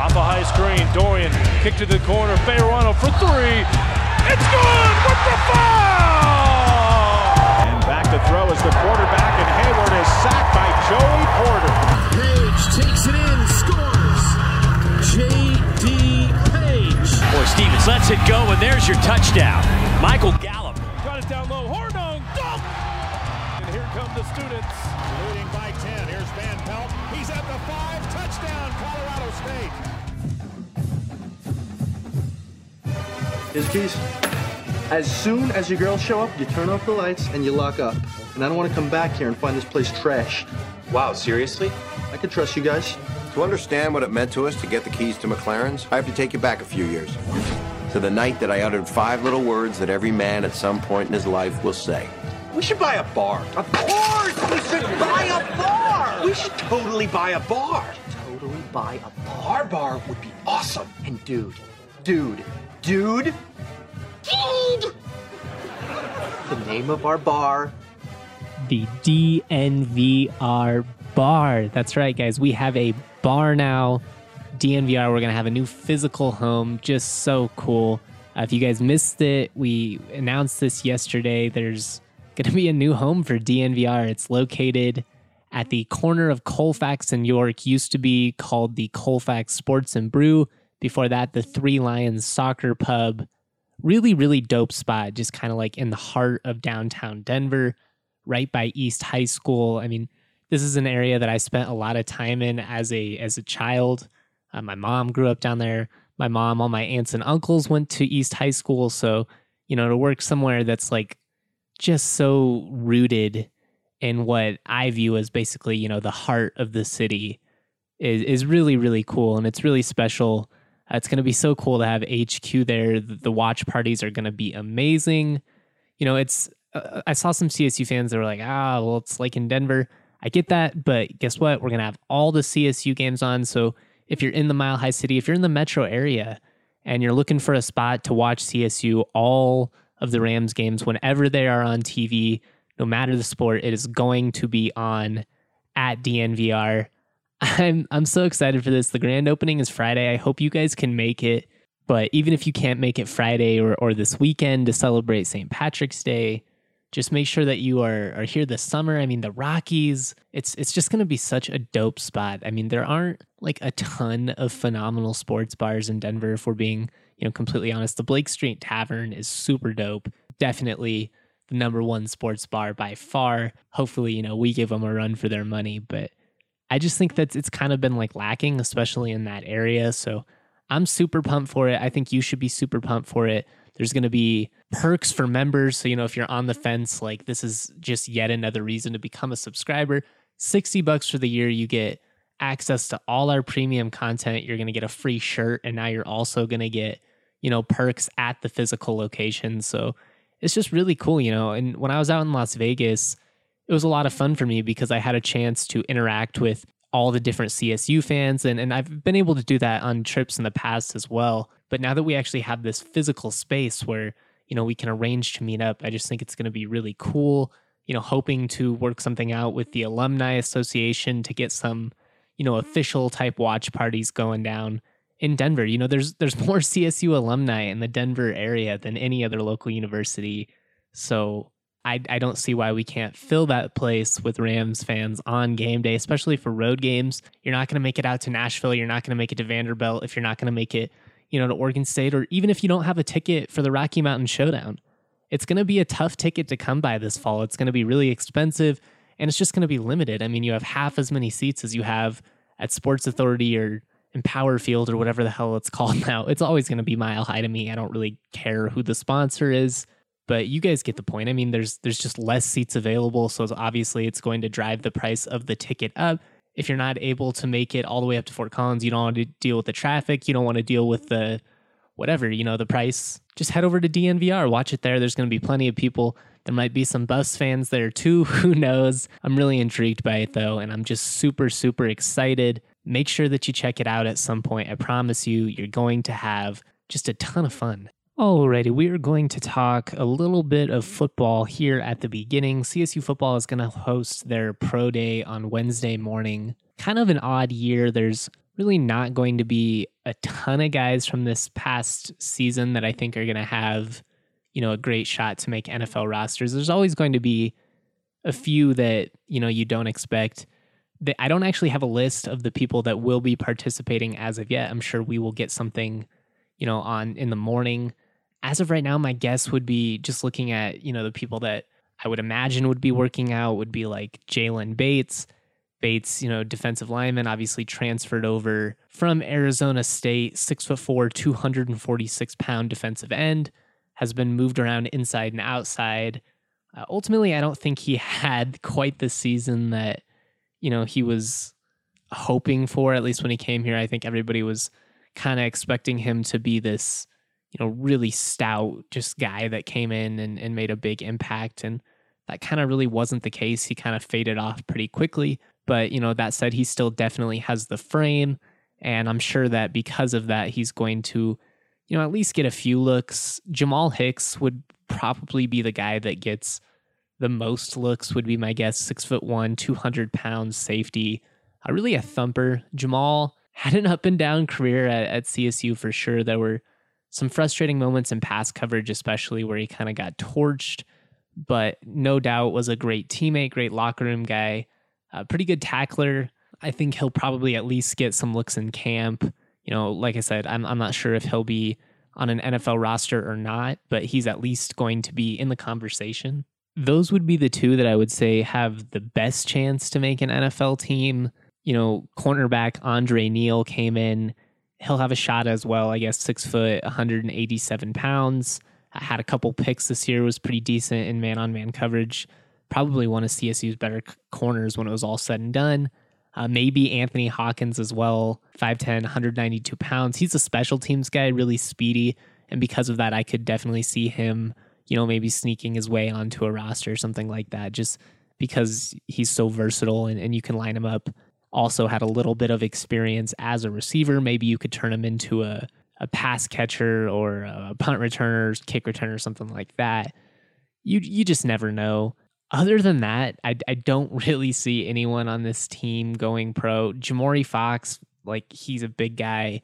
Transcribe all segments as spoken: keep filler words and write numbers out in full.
Off a high screen, Dorian kick to the corner, Fayerano for three. It's good with the foul! And back to throw is the quarterback, and Hayward is sacked by Joey Porter. Page takes it in, scores. J D. Page. Boy, Stevens lets it go, and there's your touchdown. Michael Gallup. Got it down low, Hornung, dunk! And here come the students. Leading by ten, here's Van Pelt. He's at the five, touchdown, Colorado State. Here's the keys. As soon as your girls show up, you turn off the lights and you lock up. And I don't want to come back here and find this place trashed. Wow, seriously? I can trust you guys. To understand what it meant to us to get the keys to McLaren's, I have to take you back a few years. To the night that I uttered five little words that every man at some point in his life will say. We should buy a bar. Of course we should buy a bar. We should totally buy a bar. Totally buy a bar. Our bar would be awesome. And dude, dude, dude, dude. The name of our bar. The D N V R bar. That's right, guys. We have a bar now. D N V R, we're going to have a new physical home. Just so cool. Uh, if you guys missed it, we announced this yesterday. There's going to be a new home for D N V R. It's located at the corner of Colfax and York. Used to be called the Colfax Sports and Brew. Before that, the Three Lions Soccer Pub. Really, really dope spot. Just kind of like in the heart of downtown Denver, right by East High School. I mean, this is an area that I spent a lot of time in as a as a child. Uh, my mom grew up down there. My mom, all my aunts and uncles went to East High School. So, you know, to work somewhere that's like just so rooted in what I view as basically, you know, the heart of the city is, is really, really cool. And it's really special. Uh, it's going to be so cool to have H Q there. The, the watch parties are going to be amazing. You know, it's, uh, I saw some C S U fans that were like, ah, well, it's like in Denver. I get that, but guess what? We're going to have all the C S U games on. So if you're in the Mile High City, if you're in the metro area and you're looking for a spot to watch C S U, all of the Rams games, whenever they are on T V, no matter the sport, it is going to be on at D N V R. I'm I'm so excited for this. The grand opening is Friday. I hope you guys can make it. But even if you can't make it Friday or, or this weekend to celebrate Saint Patrick's Day, just make sure that you are, are here this summer. I mean, the Rockies, it's it's just going to be such a dope spot. I mean, there aren't like a ton of phenomenal sports bars in Denver, if we're being, you know, completely honest. The Blake Street Tavern is super dope. Definitely the number one sports bar by far. Hopefully, you know, we give them a run for their money. But I just think that it's kind of been like lacking, especially in that area. So I'm super pumped for it. I think you should be super pumped for it. There's going to be perks for members. So, you know, if you're on the fence, like this is just yet another reason to become a subscriber. sixty bucks for the year. You get access to all our premium content. You're going to get a free shirt. And now you're also going to get, you know, perks at the physical location. So it's just really cool, you know. And when I was out in Las Vegas, it was a lot of fun for me because I had a chance to interact with all the different C S U fans. And, and I've been able to do that on trips in the past as well. But now that we actually have this physical space where, you know, we can arrange to meet up, I just think it's going to be really cool. You know, hoping to work something out with the Alumni Association to get some, you know, official type watch parties going down in Denver. You know, there's there's more C S U alumni in the Denver area than any other local university. So I, I don't see why we can't fill that place with Rams fans on game day, especially for road games. You're not going to make it out to Nashville. You're not going to make it to Vanderbilt if you're not going to make it, you know, to Oregon State, or even if you don't have a ticket for the Rocky Mountain Showdown. It's going to be a tough ticket to come by this fall. It's going to be really expensive, and it's just going to be limited. I mean, you have half as many seats as you have at Sports Authority or Empower Field or whatever the hell it's called now. It's always going to be Mile High to me. I don't really care who the sponsor is, but you guys get the point. I mean, there's there's just less seats available, so it's obviously it's going to drive the price of the ticket up. If you're not able to make it all the way up to Fort Collins, you don't want to deal with the traffic, you don't want to deal with the whatever, you know, the price, just head over to D N V R, watch it there. There's going to be plenty of people. There might be some Buffs fans there too, who knows. I'm really intrigued by it though, and I'm just super, super excited. Make sure that you check it out at some point. I promise you, you're going to have just a ton of fun. Alrighty, we are going to talk a little bit of football here at the beginning. C S U football is going to host their pro day on Wednesday morning. Kind of an odd year. There's really not going to be a ton of guys from this past season that I think are going to have, you know, a great shot to make N F L rosters. There's always going to be a few that, you know, you don't expect. I don't actually have a list of the people that will be participating as of yet. I'm sure we will get something, you know, on in the morning. As of right now, my guess would be, just looking at, you know, the people that I would imagine would be working out would be like Jalen Bates. Bates, you know, defensive lineman, obviously transferred over from Arizona State, six foot four, two hundred forty-six pound defensive end, has been moved around inside and outside. Uh, ultimately, I don't think he had quite the season that, you know, he was hoping for, at least when he came here. I think everybody was kind of expecting him to be this, you know, really stout just guy that came in and, and made a big impact. And that kind of really wasn't the case. He kind of faded off pretty quickly. But, you know, that said, he still definitely has the frame. And I'm sure that because of that, he's going to, you know, at least get a few looks. Jamal Hicks would probably be the guy that gets the most looks, would be my guess. Six foot one, two hundred pounds safety, uh, really a thumper. Jamal had an up and down career at, at C S U for sure. There were some frustrating moments in pass coverage, especially where he kind of got torched, but no doubt was a great teammate, great locker room guy, a pretty good tackler. I think he'll probably at least get some looks in camp. You know, like I said, I'm I'm not sure if he'll be on an N F L roster or not, but he's at least going to be in the conversation. Those would be the two that I would say have the best chance to make an N F L team. You know, cornerback Andre Neal came in. He'll have a shot as well, I guess, six foot, one hundred eighty-seven pounds. I had a couple picks this year, was pretty decent in man-on-man coverage. Probably one of C S U's better c- corners when it was all said and done. Uh, maybe Anthony Hawkins as well, five ten, one hundred ninety-two pounds. He's a special teams guy, really speedy. And because of that, I could definitely see him, you know, maybe sneaking his way onto a roster or something like that, just because he's so versatile and, and you can line him up. Also had a little bit of experience as a receiver. Maybe you could turn him into a, a pass catcher or a punt returner, kick returner, something like that. You you just never know. Other than that, I, I don't really see anyone on this team going pro. Jamori Fox, like, he's a big guy.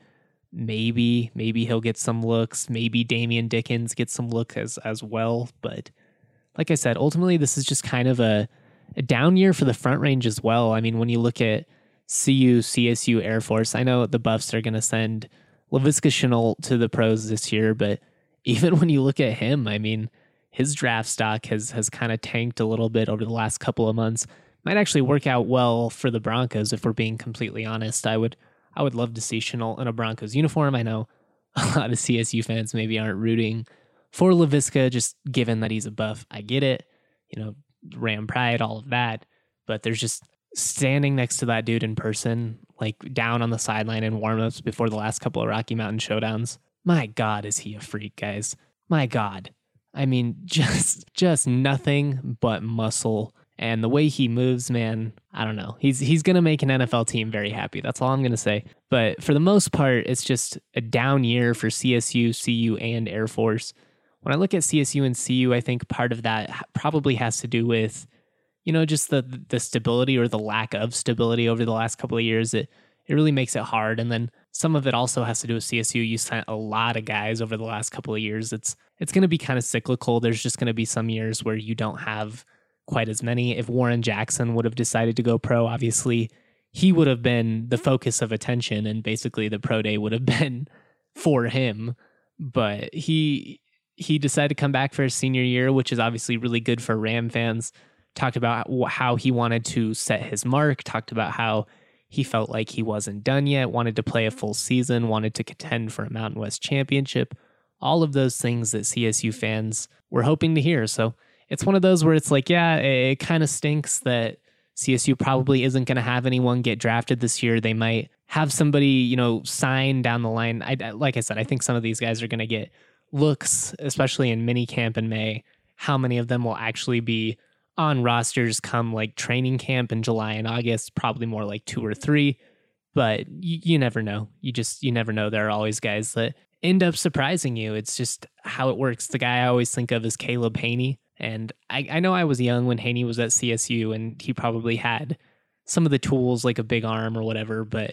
Maybe, maybe he'll get some looks. Maybe Damian Dickens gets some look as, as well. But like I said, ultimately, this is just kind of a, a down year for the Front Range as well. I mean, when you look at C U, C S U, Air Force, I know the Buffs are going to send Laviska Shenault to the pros this year, but even when you look at him, I mean, his draft stock has has kind of tanked a little bit over the last couple of months. Might actually work out well for the Broncos if we're being completely honest. I would I would love to see Shenault in a Broncos uniform. I know a lot of C S U fans maybe aren't rooting for Laviska, just given that he's a Buff. I get it, you know, Ram pride, all of that, but there's just standing next to that dude in person, like down on the sideline in warmups before the last couple of Rocky Mountain showdowns. My God, is he a freak, guys? My God. I mean, just just nothing but muscle. And the way he moves, man, I don't know. He's he's going to make an N F L team very happy. That's all I'm going to say. But for the most part, it's just a down year for C S U, C U, and Air Force. When I look at C S U and C U, I think part of that probably has to do with, you know, just the the stability or the lack of stability over the last couple of years. It it really makes it hard. And then some of it also has to do with C S U. You sent a lot of guys over the last couple of years. It's it's going to be kind of cyclical. There's just going to be some years where you don't have quite as many. If Warren Jackson would have decided to go pro, obviously he would have been the focus of attention, and basically the pro day would have been for him. But he he decided to come back for his senior year, which is obviously really good for Ram fans. Talked about how he wanted to set his mark, talked about how he felt like he wasn't done yet, wanted to play a full season, wanted to contend for a Mountain West championship. All of those things that C S U fans were hoping to hear. So it's one of those where it's like, yeah, it, it kind of stinks that C S U probably isn't going to have anyone get drafted this year. They might have somebody, you know, sign down the line. I, like I said, I think some of these guys are going to get looks, especially in mini camp in May. How many of them will actually be on rosters come like training camp in July and August? Probably more like two or three, but you, you never know. You just, you never know. There are always guys that end up surprising you. It's just how it works. The guy I always think of is Caleb Haney. And I, I know I was young when Haney was at C S U, and he probably had some of the tools like a big arm or whatever, but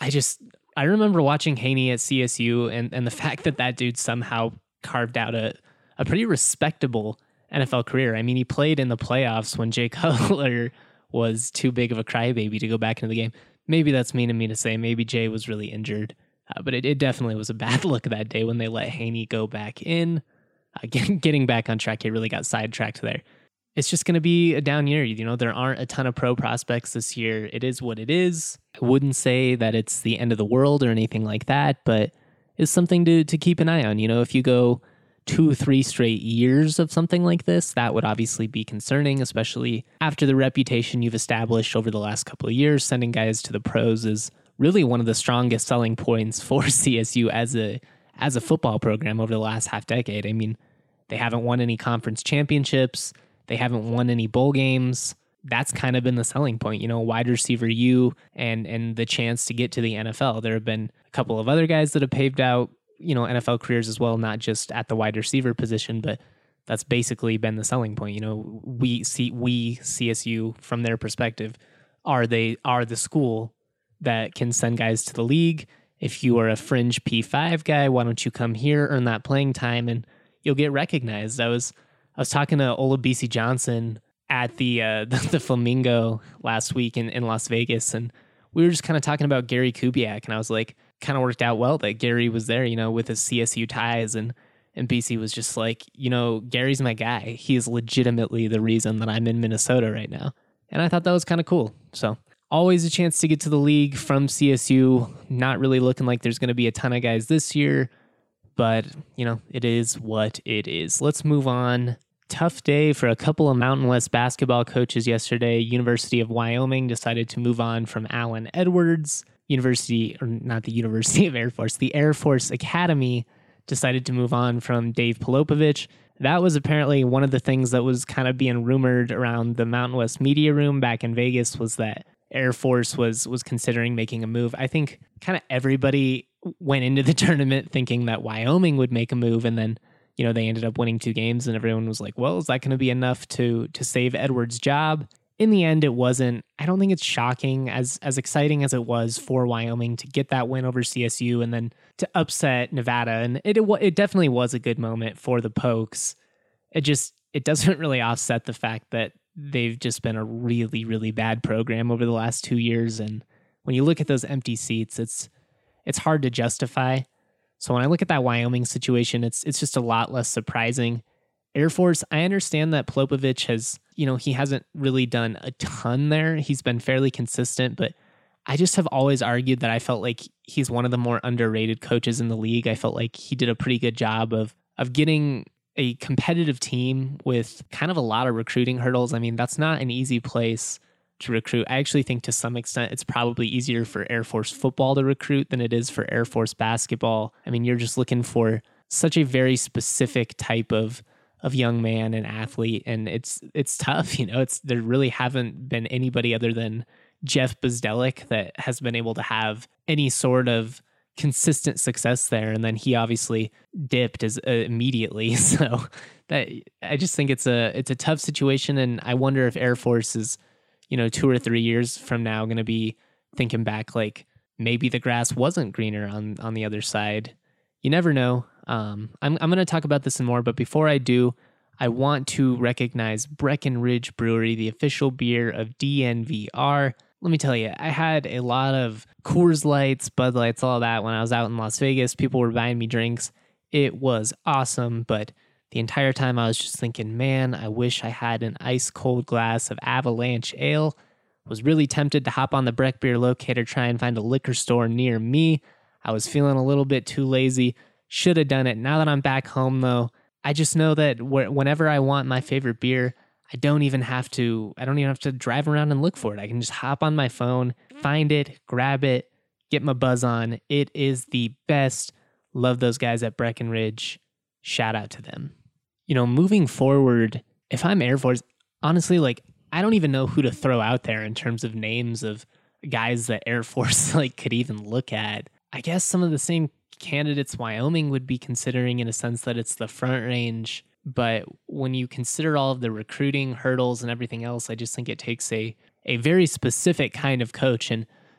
I just, I remember watching Haney at C S U and, and the fact that that dude somehow carved out a, a pretty respectable N F L career. I mean, he played in the playoffs when Jay Cutler was too big of a crybaby to go back into the game. Maybe that's mean of me to say. Maybe Jay was really injured. Uh, but it, it definitely was a bad look that day when they let Haney go back in. Uh, get, getting back on track, he really got sidetracked there. It's just going to be a down year. You know, there aren't a ton of pro prospects this year. It is what it is. I wouldn't say that it's the end of the world or anything like that, but it's something to, to keep an eye on. You know, if you go two, three straight years of something like this, that would obviously be concerning, especially after the reputation you've established over the last couple of years. Sending guys to the pros is really one of the strongest selling points for C S U as a as a football program over the last half decade. I mean, they haven't won any conference championships. They haven't won any bowl games. That's kind of been the selling point, you know, wide receiver U and and the chance to get to the N F L. There have been a couple of other guys that have paved out, you know, N F L careers as well, not just at the wide receiver position, but that's basically been the selling point. You know, we see we C S U from their perspective are they are the school that can send guys to the league. If you are a fringe P five guy, why don't you come here, earn that playing time, and you'll get recognized. I was I was talking to Olabisi Johnson at the uh, the, the Flamingo last week in, in Las Vegas, and we were just kind of talking about Gary Kubiak, and I was like, kind of worked out well that Gary was there, you know, with his C S U ties, and and B C was just like, you know, Gary's my guy. He is legitimately the reason that I'm in Minnesota right now, and I thought that was kind of cool. So always a chance to get to the league from C S U. Not really looking like there's going to be a ton of guys this year, but, you know, it is what it is. Let's move on. Tough day for a couple of Mountain West basketball coaches yesterday. University of Wyoming decided to move on from Alan Edwards. University, or not the University of Air Force, the Air Force Academy decided to move on from Dave Polopovich. That was apparently one of the things that was kind of being rumored around the Mountain West media room back in Vegas, was that Air Force was was considering making a move. I think kind of everybody went into the tournament thinking that Wyoming would make a move, and then, you know, they ended up winning two games, and everyone was like, well, is that going to be enough to to save Edwards' job? In the end, it wasn't. I don't think it's shocking, as as exciting as it was for Wyoming to get that win over C S U and then to upset Nevada. And it it, it definitely was a good moment for the Pokes. It just, it doesn't really offset the fact that they've just been a really, really bad program over the last two years. And when you look at those empty seats, it's it's hard to justify. So when I look at that Wyoming situation, it's it's just a lot less surprising. Air Force, I understand that Polopovich has, you know, he hasn't really done a ton there. He's been fairly consistent, but I just have always argued that I felt like he's one of the more underrated coaches in the league. I felt like he did a pretty good job of of getting a competitive team with kind of a lot of recruiting hurdles. I mean, that's not an easy place to recruit. I actually think to some extent it's probably easier for Air Force football to recruit than it is for Air Force basketball. I mean, you're just looking for such a very specific type of of young man and athlete, and it's it's tough. You know, it's there really haven't been anybody other than Jeff Bzdelik that has been able to have any sort of consistent success there, and then he obviously dipped as uh, immediately. So that I just think it's a it's a tough situation, and I wonder if Air Force is, you know, two or three years from now going to be thinking back like maybe the grass wasn't greener on on the other side. You never know. Um, I'm I'm going to talk about this and more, but before I do, I want to recognize Breckenridge Brewery, the official beer of D N V R. Let me tell you, I had a lot of Coors Lights, Bud Lights, all that when I was out in Las Vegas. People were buying me drinks. It was awesome, but the entire time I was just thinking, man, I wish I had an ice cold glass of Avalanche Ale. Was really tempted to hop on the Breck Beer Locator, try and find a liquor store near me. I was feeling a little bit too lazy. Should have done it. Now that I'm back home, though, I just know that wh- whenever I want my favorite beer, I don't even have to, I don't even have to drive around and look for it. I can just hop on my phone, find it, grab it, get my buzz on. It is the best. Love those guys at Breckenridge. Shout out to them. You know, moving forward, if I'm Air Force, honestly, like, I don't even know who to throw out there in terms of names of guys that Air Force like could even look at. I guess some of the same candidates Wyoming would be considering, in a sense that it's the Front Range. But when you consider all of the recruiting hurdles and everything else, I just think it takes a a very specific kind of coach. And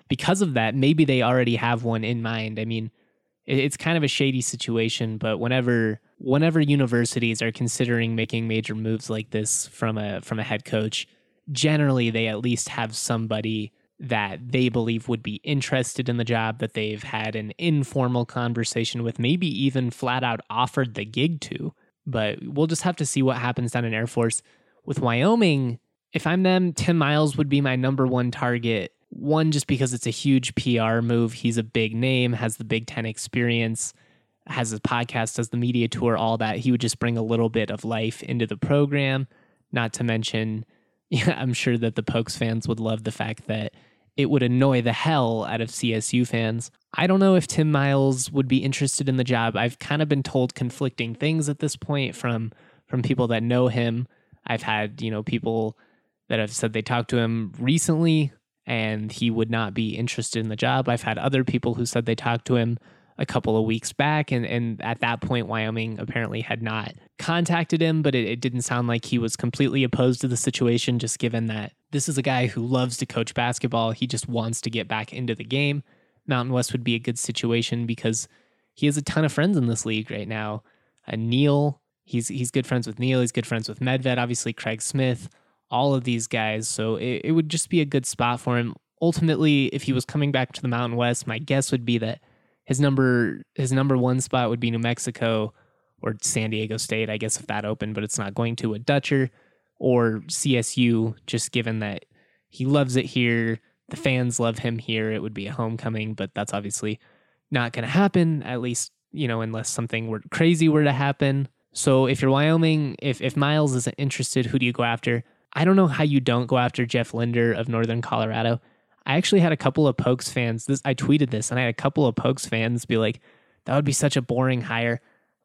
because of that, maybe they already have one in mind. I mean, it, it's kind of a shady situation, but whenever whenever universities are considering making major moves like this from a from a head coach, generally they at least have somebody that they believe would be interested in the job, that they've had an informal conversation with, maybe even flat out offered the gig to. But we'll just have to see what happens down in Air Force. With Wyoming, if I'm them, Tim Miles would be my number one target. One, just because it's a huge P R move. He's a big name, has the Big Ten experience, has a podcast, does the media tour, all that. He would just bring a little bit of life into the program. Not to mention, yeah, I'm sure that the Pokes fans would love the fact that it would annoy the hell out of C S U fans. I don't know if Tim Miles would be interested in the job. I've kind of been told conflicting things at this point from from people that know him. I've had, you know, people that have said they talked to him recently and he would not be interested in the job. I've had other people who said they talked to him a couple of weeks back, and, and at that point, Wyoming apparently had not contacted him, but it, it didn't sound like he was completely opposed to the situation, just given that this is a guy who loves to coach basketball. He just wants to get back into the game. Mountain West would be a good situation because he has a ton of friends in this league right now. Uh, Neil, he's he's good friends with Neil. He's good friends with Medved, obviously Craig Smith, all of these guys. So it, it would just be a good spot for him. Ultimately, if he was coming back to the Mountain West, my guess would be that his number his number one spot would be New Mexico or San Diego State, I guess, if that opened, but it's not going to, a Dutcher, or C S U, just given that he loves it here. The fans love him here. It would be a homecoming, but that's obviously not going to happen, at least, you know, unless something were crazy were to happen. So if you're Wyoming, if, if Miles isn't interested, who do you go after? I don't know how you don't go after Jeff Linder of Northern Colorado. I actually had a couple of Pokes fans, this, I tweeted this, and I had a couple of Pokes fans be like, that would be such a boring hire.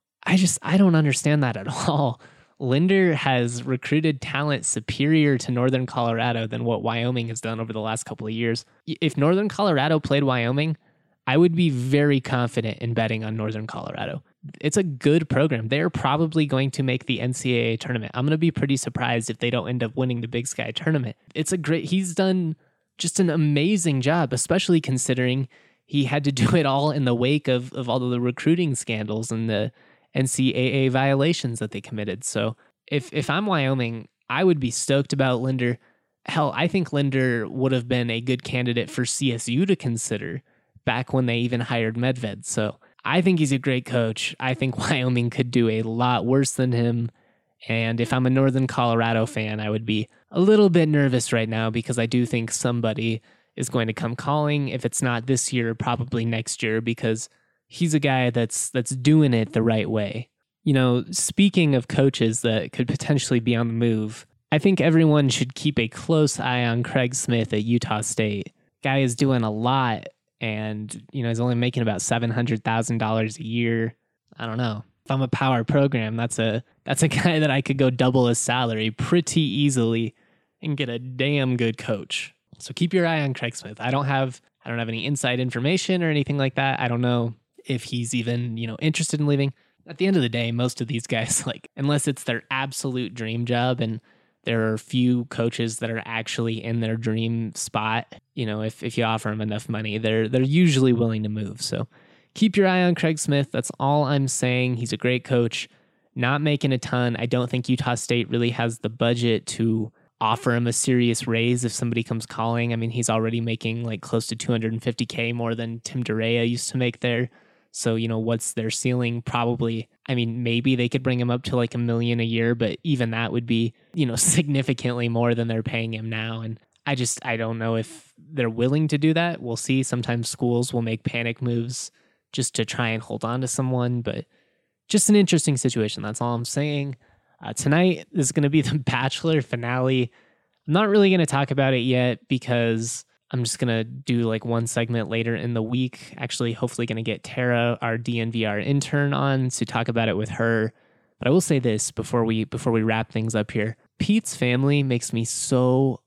I just, I don't understand that at all. Linder has recruited talent superior to Northern Colorado than what Wyoming has done over the last couple of years. If Northern Colorado played Wyoming, I would be very confident in betting on Northern Colorado. It's a good program. They're probably going to make the N C double A tournament. I'm going to be pretty surprised if they don't end up winning the Big Sky tournament. It's a great, he's done just an amazing job, especially considering he had to do it all in the wake of, of all of the recruiting scandals and the N C double A violations that they committed. So if if I'm Wyoming, I would be stoked about Linder. Hell, I think Linder would have been a good candidate for C S U to consider back when they even hired Medved. So I think he's a great coach. I think Wyoming could do a lot worse than him. And if I'm a Northern Colorado fan, I would be a little bit nervous right now because I do think somebody is going to come calling. If it's not this year, probably next year, because he's a guy that's that's doing it the right way. You know, speaking of coaches that could potentially be on the move, I think everyone should keep a close eye on Craig Smith at Utah State. Guy is doing a lot, and you know he's only making about seven hundred thousand dollars a year. I don't know. If I'm a power program, that's a that's a guy that I could go double his salary pretty easily and get a damn good coach. So keep your eye on Craig Smith. I don't have I don't have any inside information or anything like that. I don't know if he's even, you know, interested in leaving. At the end of the day, most of these guys, like, unless it's their absolute dream job, and there are few coaches that are actually in their dream spot, you know, if, if you offer them enough money, they're they're usually willing to move. So keep your eye on Craig Smith. That's all I'm saying. He's a great coach, not making a ton. I don't think Utah State really has the budget to offer him a serious raise if somebody comes calling. I mean, he's already making like close to two hundred fifty K more than Tim Durea used to make there. So, you know, what's their ceiling? Probably, I mean, maybe they could bring him up to like a million a year, but even that would be, you know, significantly more than they're paying him now. And I just, I don't know if they're willing to do that. We'll see. Sometimes schools will make panic moves just to try and hold on to someone, but just an interesting situation. That's all I'm saying. Uh, tonight is going to be the Bachelor finale. I'm not really going to talk about it yet because I'm just going to do like one segment later in the week. Actually, hopefully going to get Tara, our D N V R intern, on to talk about it with her. But I will say this before we before we wrap things up here. Pete's family makes me so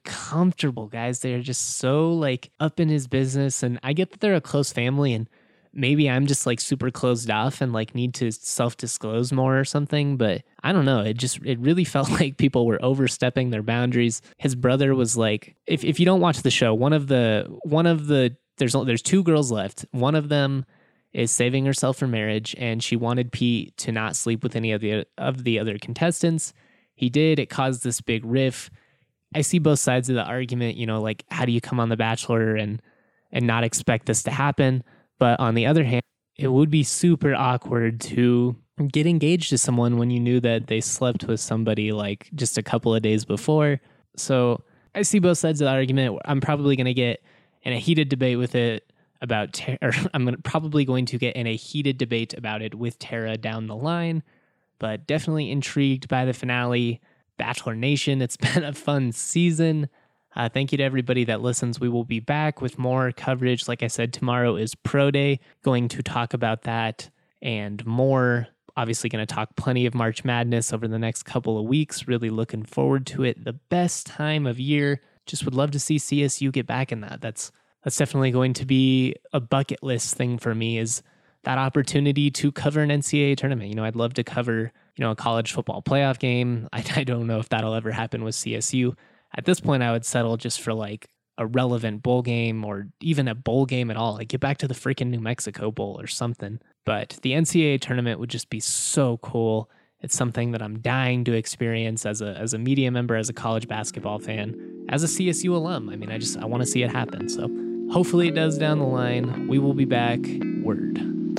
uncomfortable, guys. They're just so like up in his business, and I get that they're a close family, and maybe I'm just like super closed off and like need to self-disclose more or something, but I don't know. It just, it really felt like people were overstepping their boundaries. His brother was like, if, if you don't watch the show, one of the, one of the, there's, there's two girls left. One of them is saving herself for marriage, and she wanted Pete to not sleep with any of the, of the other contestants. He did. It caused this big riff. I see both sides of the argument, you know, like how do you come on The Bachelor and, and not expect this to happen? But on the other hand, it would be super awkward to get engaged to someone when you knew that they slept with somebody like just a couple of days before. So I see both sides of the argument. I'm probably going to get in a heated debate with it about, Tara, or I'm gonna, probably going to get in a heated debate about it with Tara down the line, but definitely intrigued by the finale. Bachelor Nation, it's been a fun season. Uh, thank you to everybody that listens. We will be back with more coverage. Like I said, tomorrow is Pro Day. Going to talk about that and more. Obviously going to talk plenty of March Madness over the next couple of weeks. Really looking forward to it. The best time of year. Just would love to see C S U get back in that. That's that's definitely going to be a bucket list thing for me, is that opportunity to cover an N C double A tournament. You know, I'd love to cover, you know, a college football playoff game. I, I don't know if that'll ever happen with C S U. At this point, I would settle just for like a relevant bowl game or even a bowl game at all. Like get back to the freaking New Mexico Bowl or something. But the N C double A tournament would just be so cool. It's something that I'm dying to experience as a as a media member, as a college basketball fan, as a C S U alum. I mean, I just I want to see it happen. So hopefully it does down the line. We will be back. Word.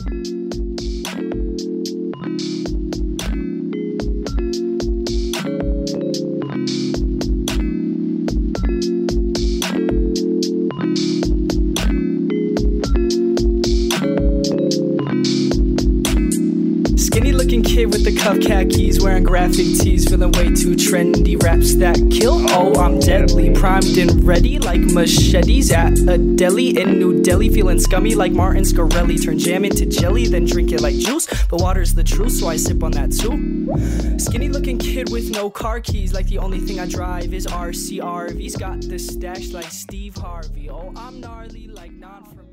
Kid with the cuff khakis, wearing graphic tees, feeling way too trendy. Raps that kill, oh I'm deadly. Primed and ready like machetes at a deli in New Delhi. Feeling scummy like Martin Scarelli. Turn jam into jelly, then drink it like juice. But water's the truth, so I sip on that too. Skinny looking kid with no car keys, like the only thing I drive is R C R Vs. Got the stash like Steve Harvey. Oh I'm gnarly like non from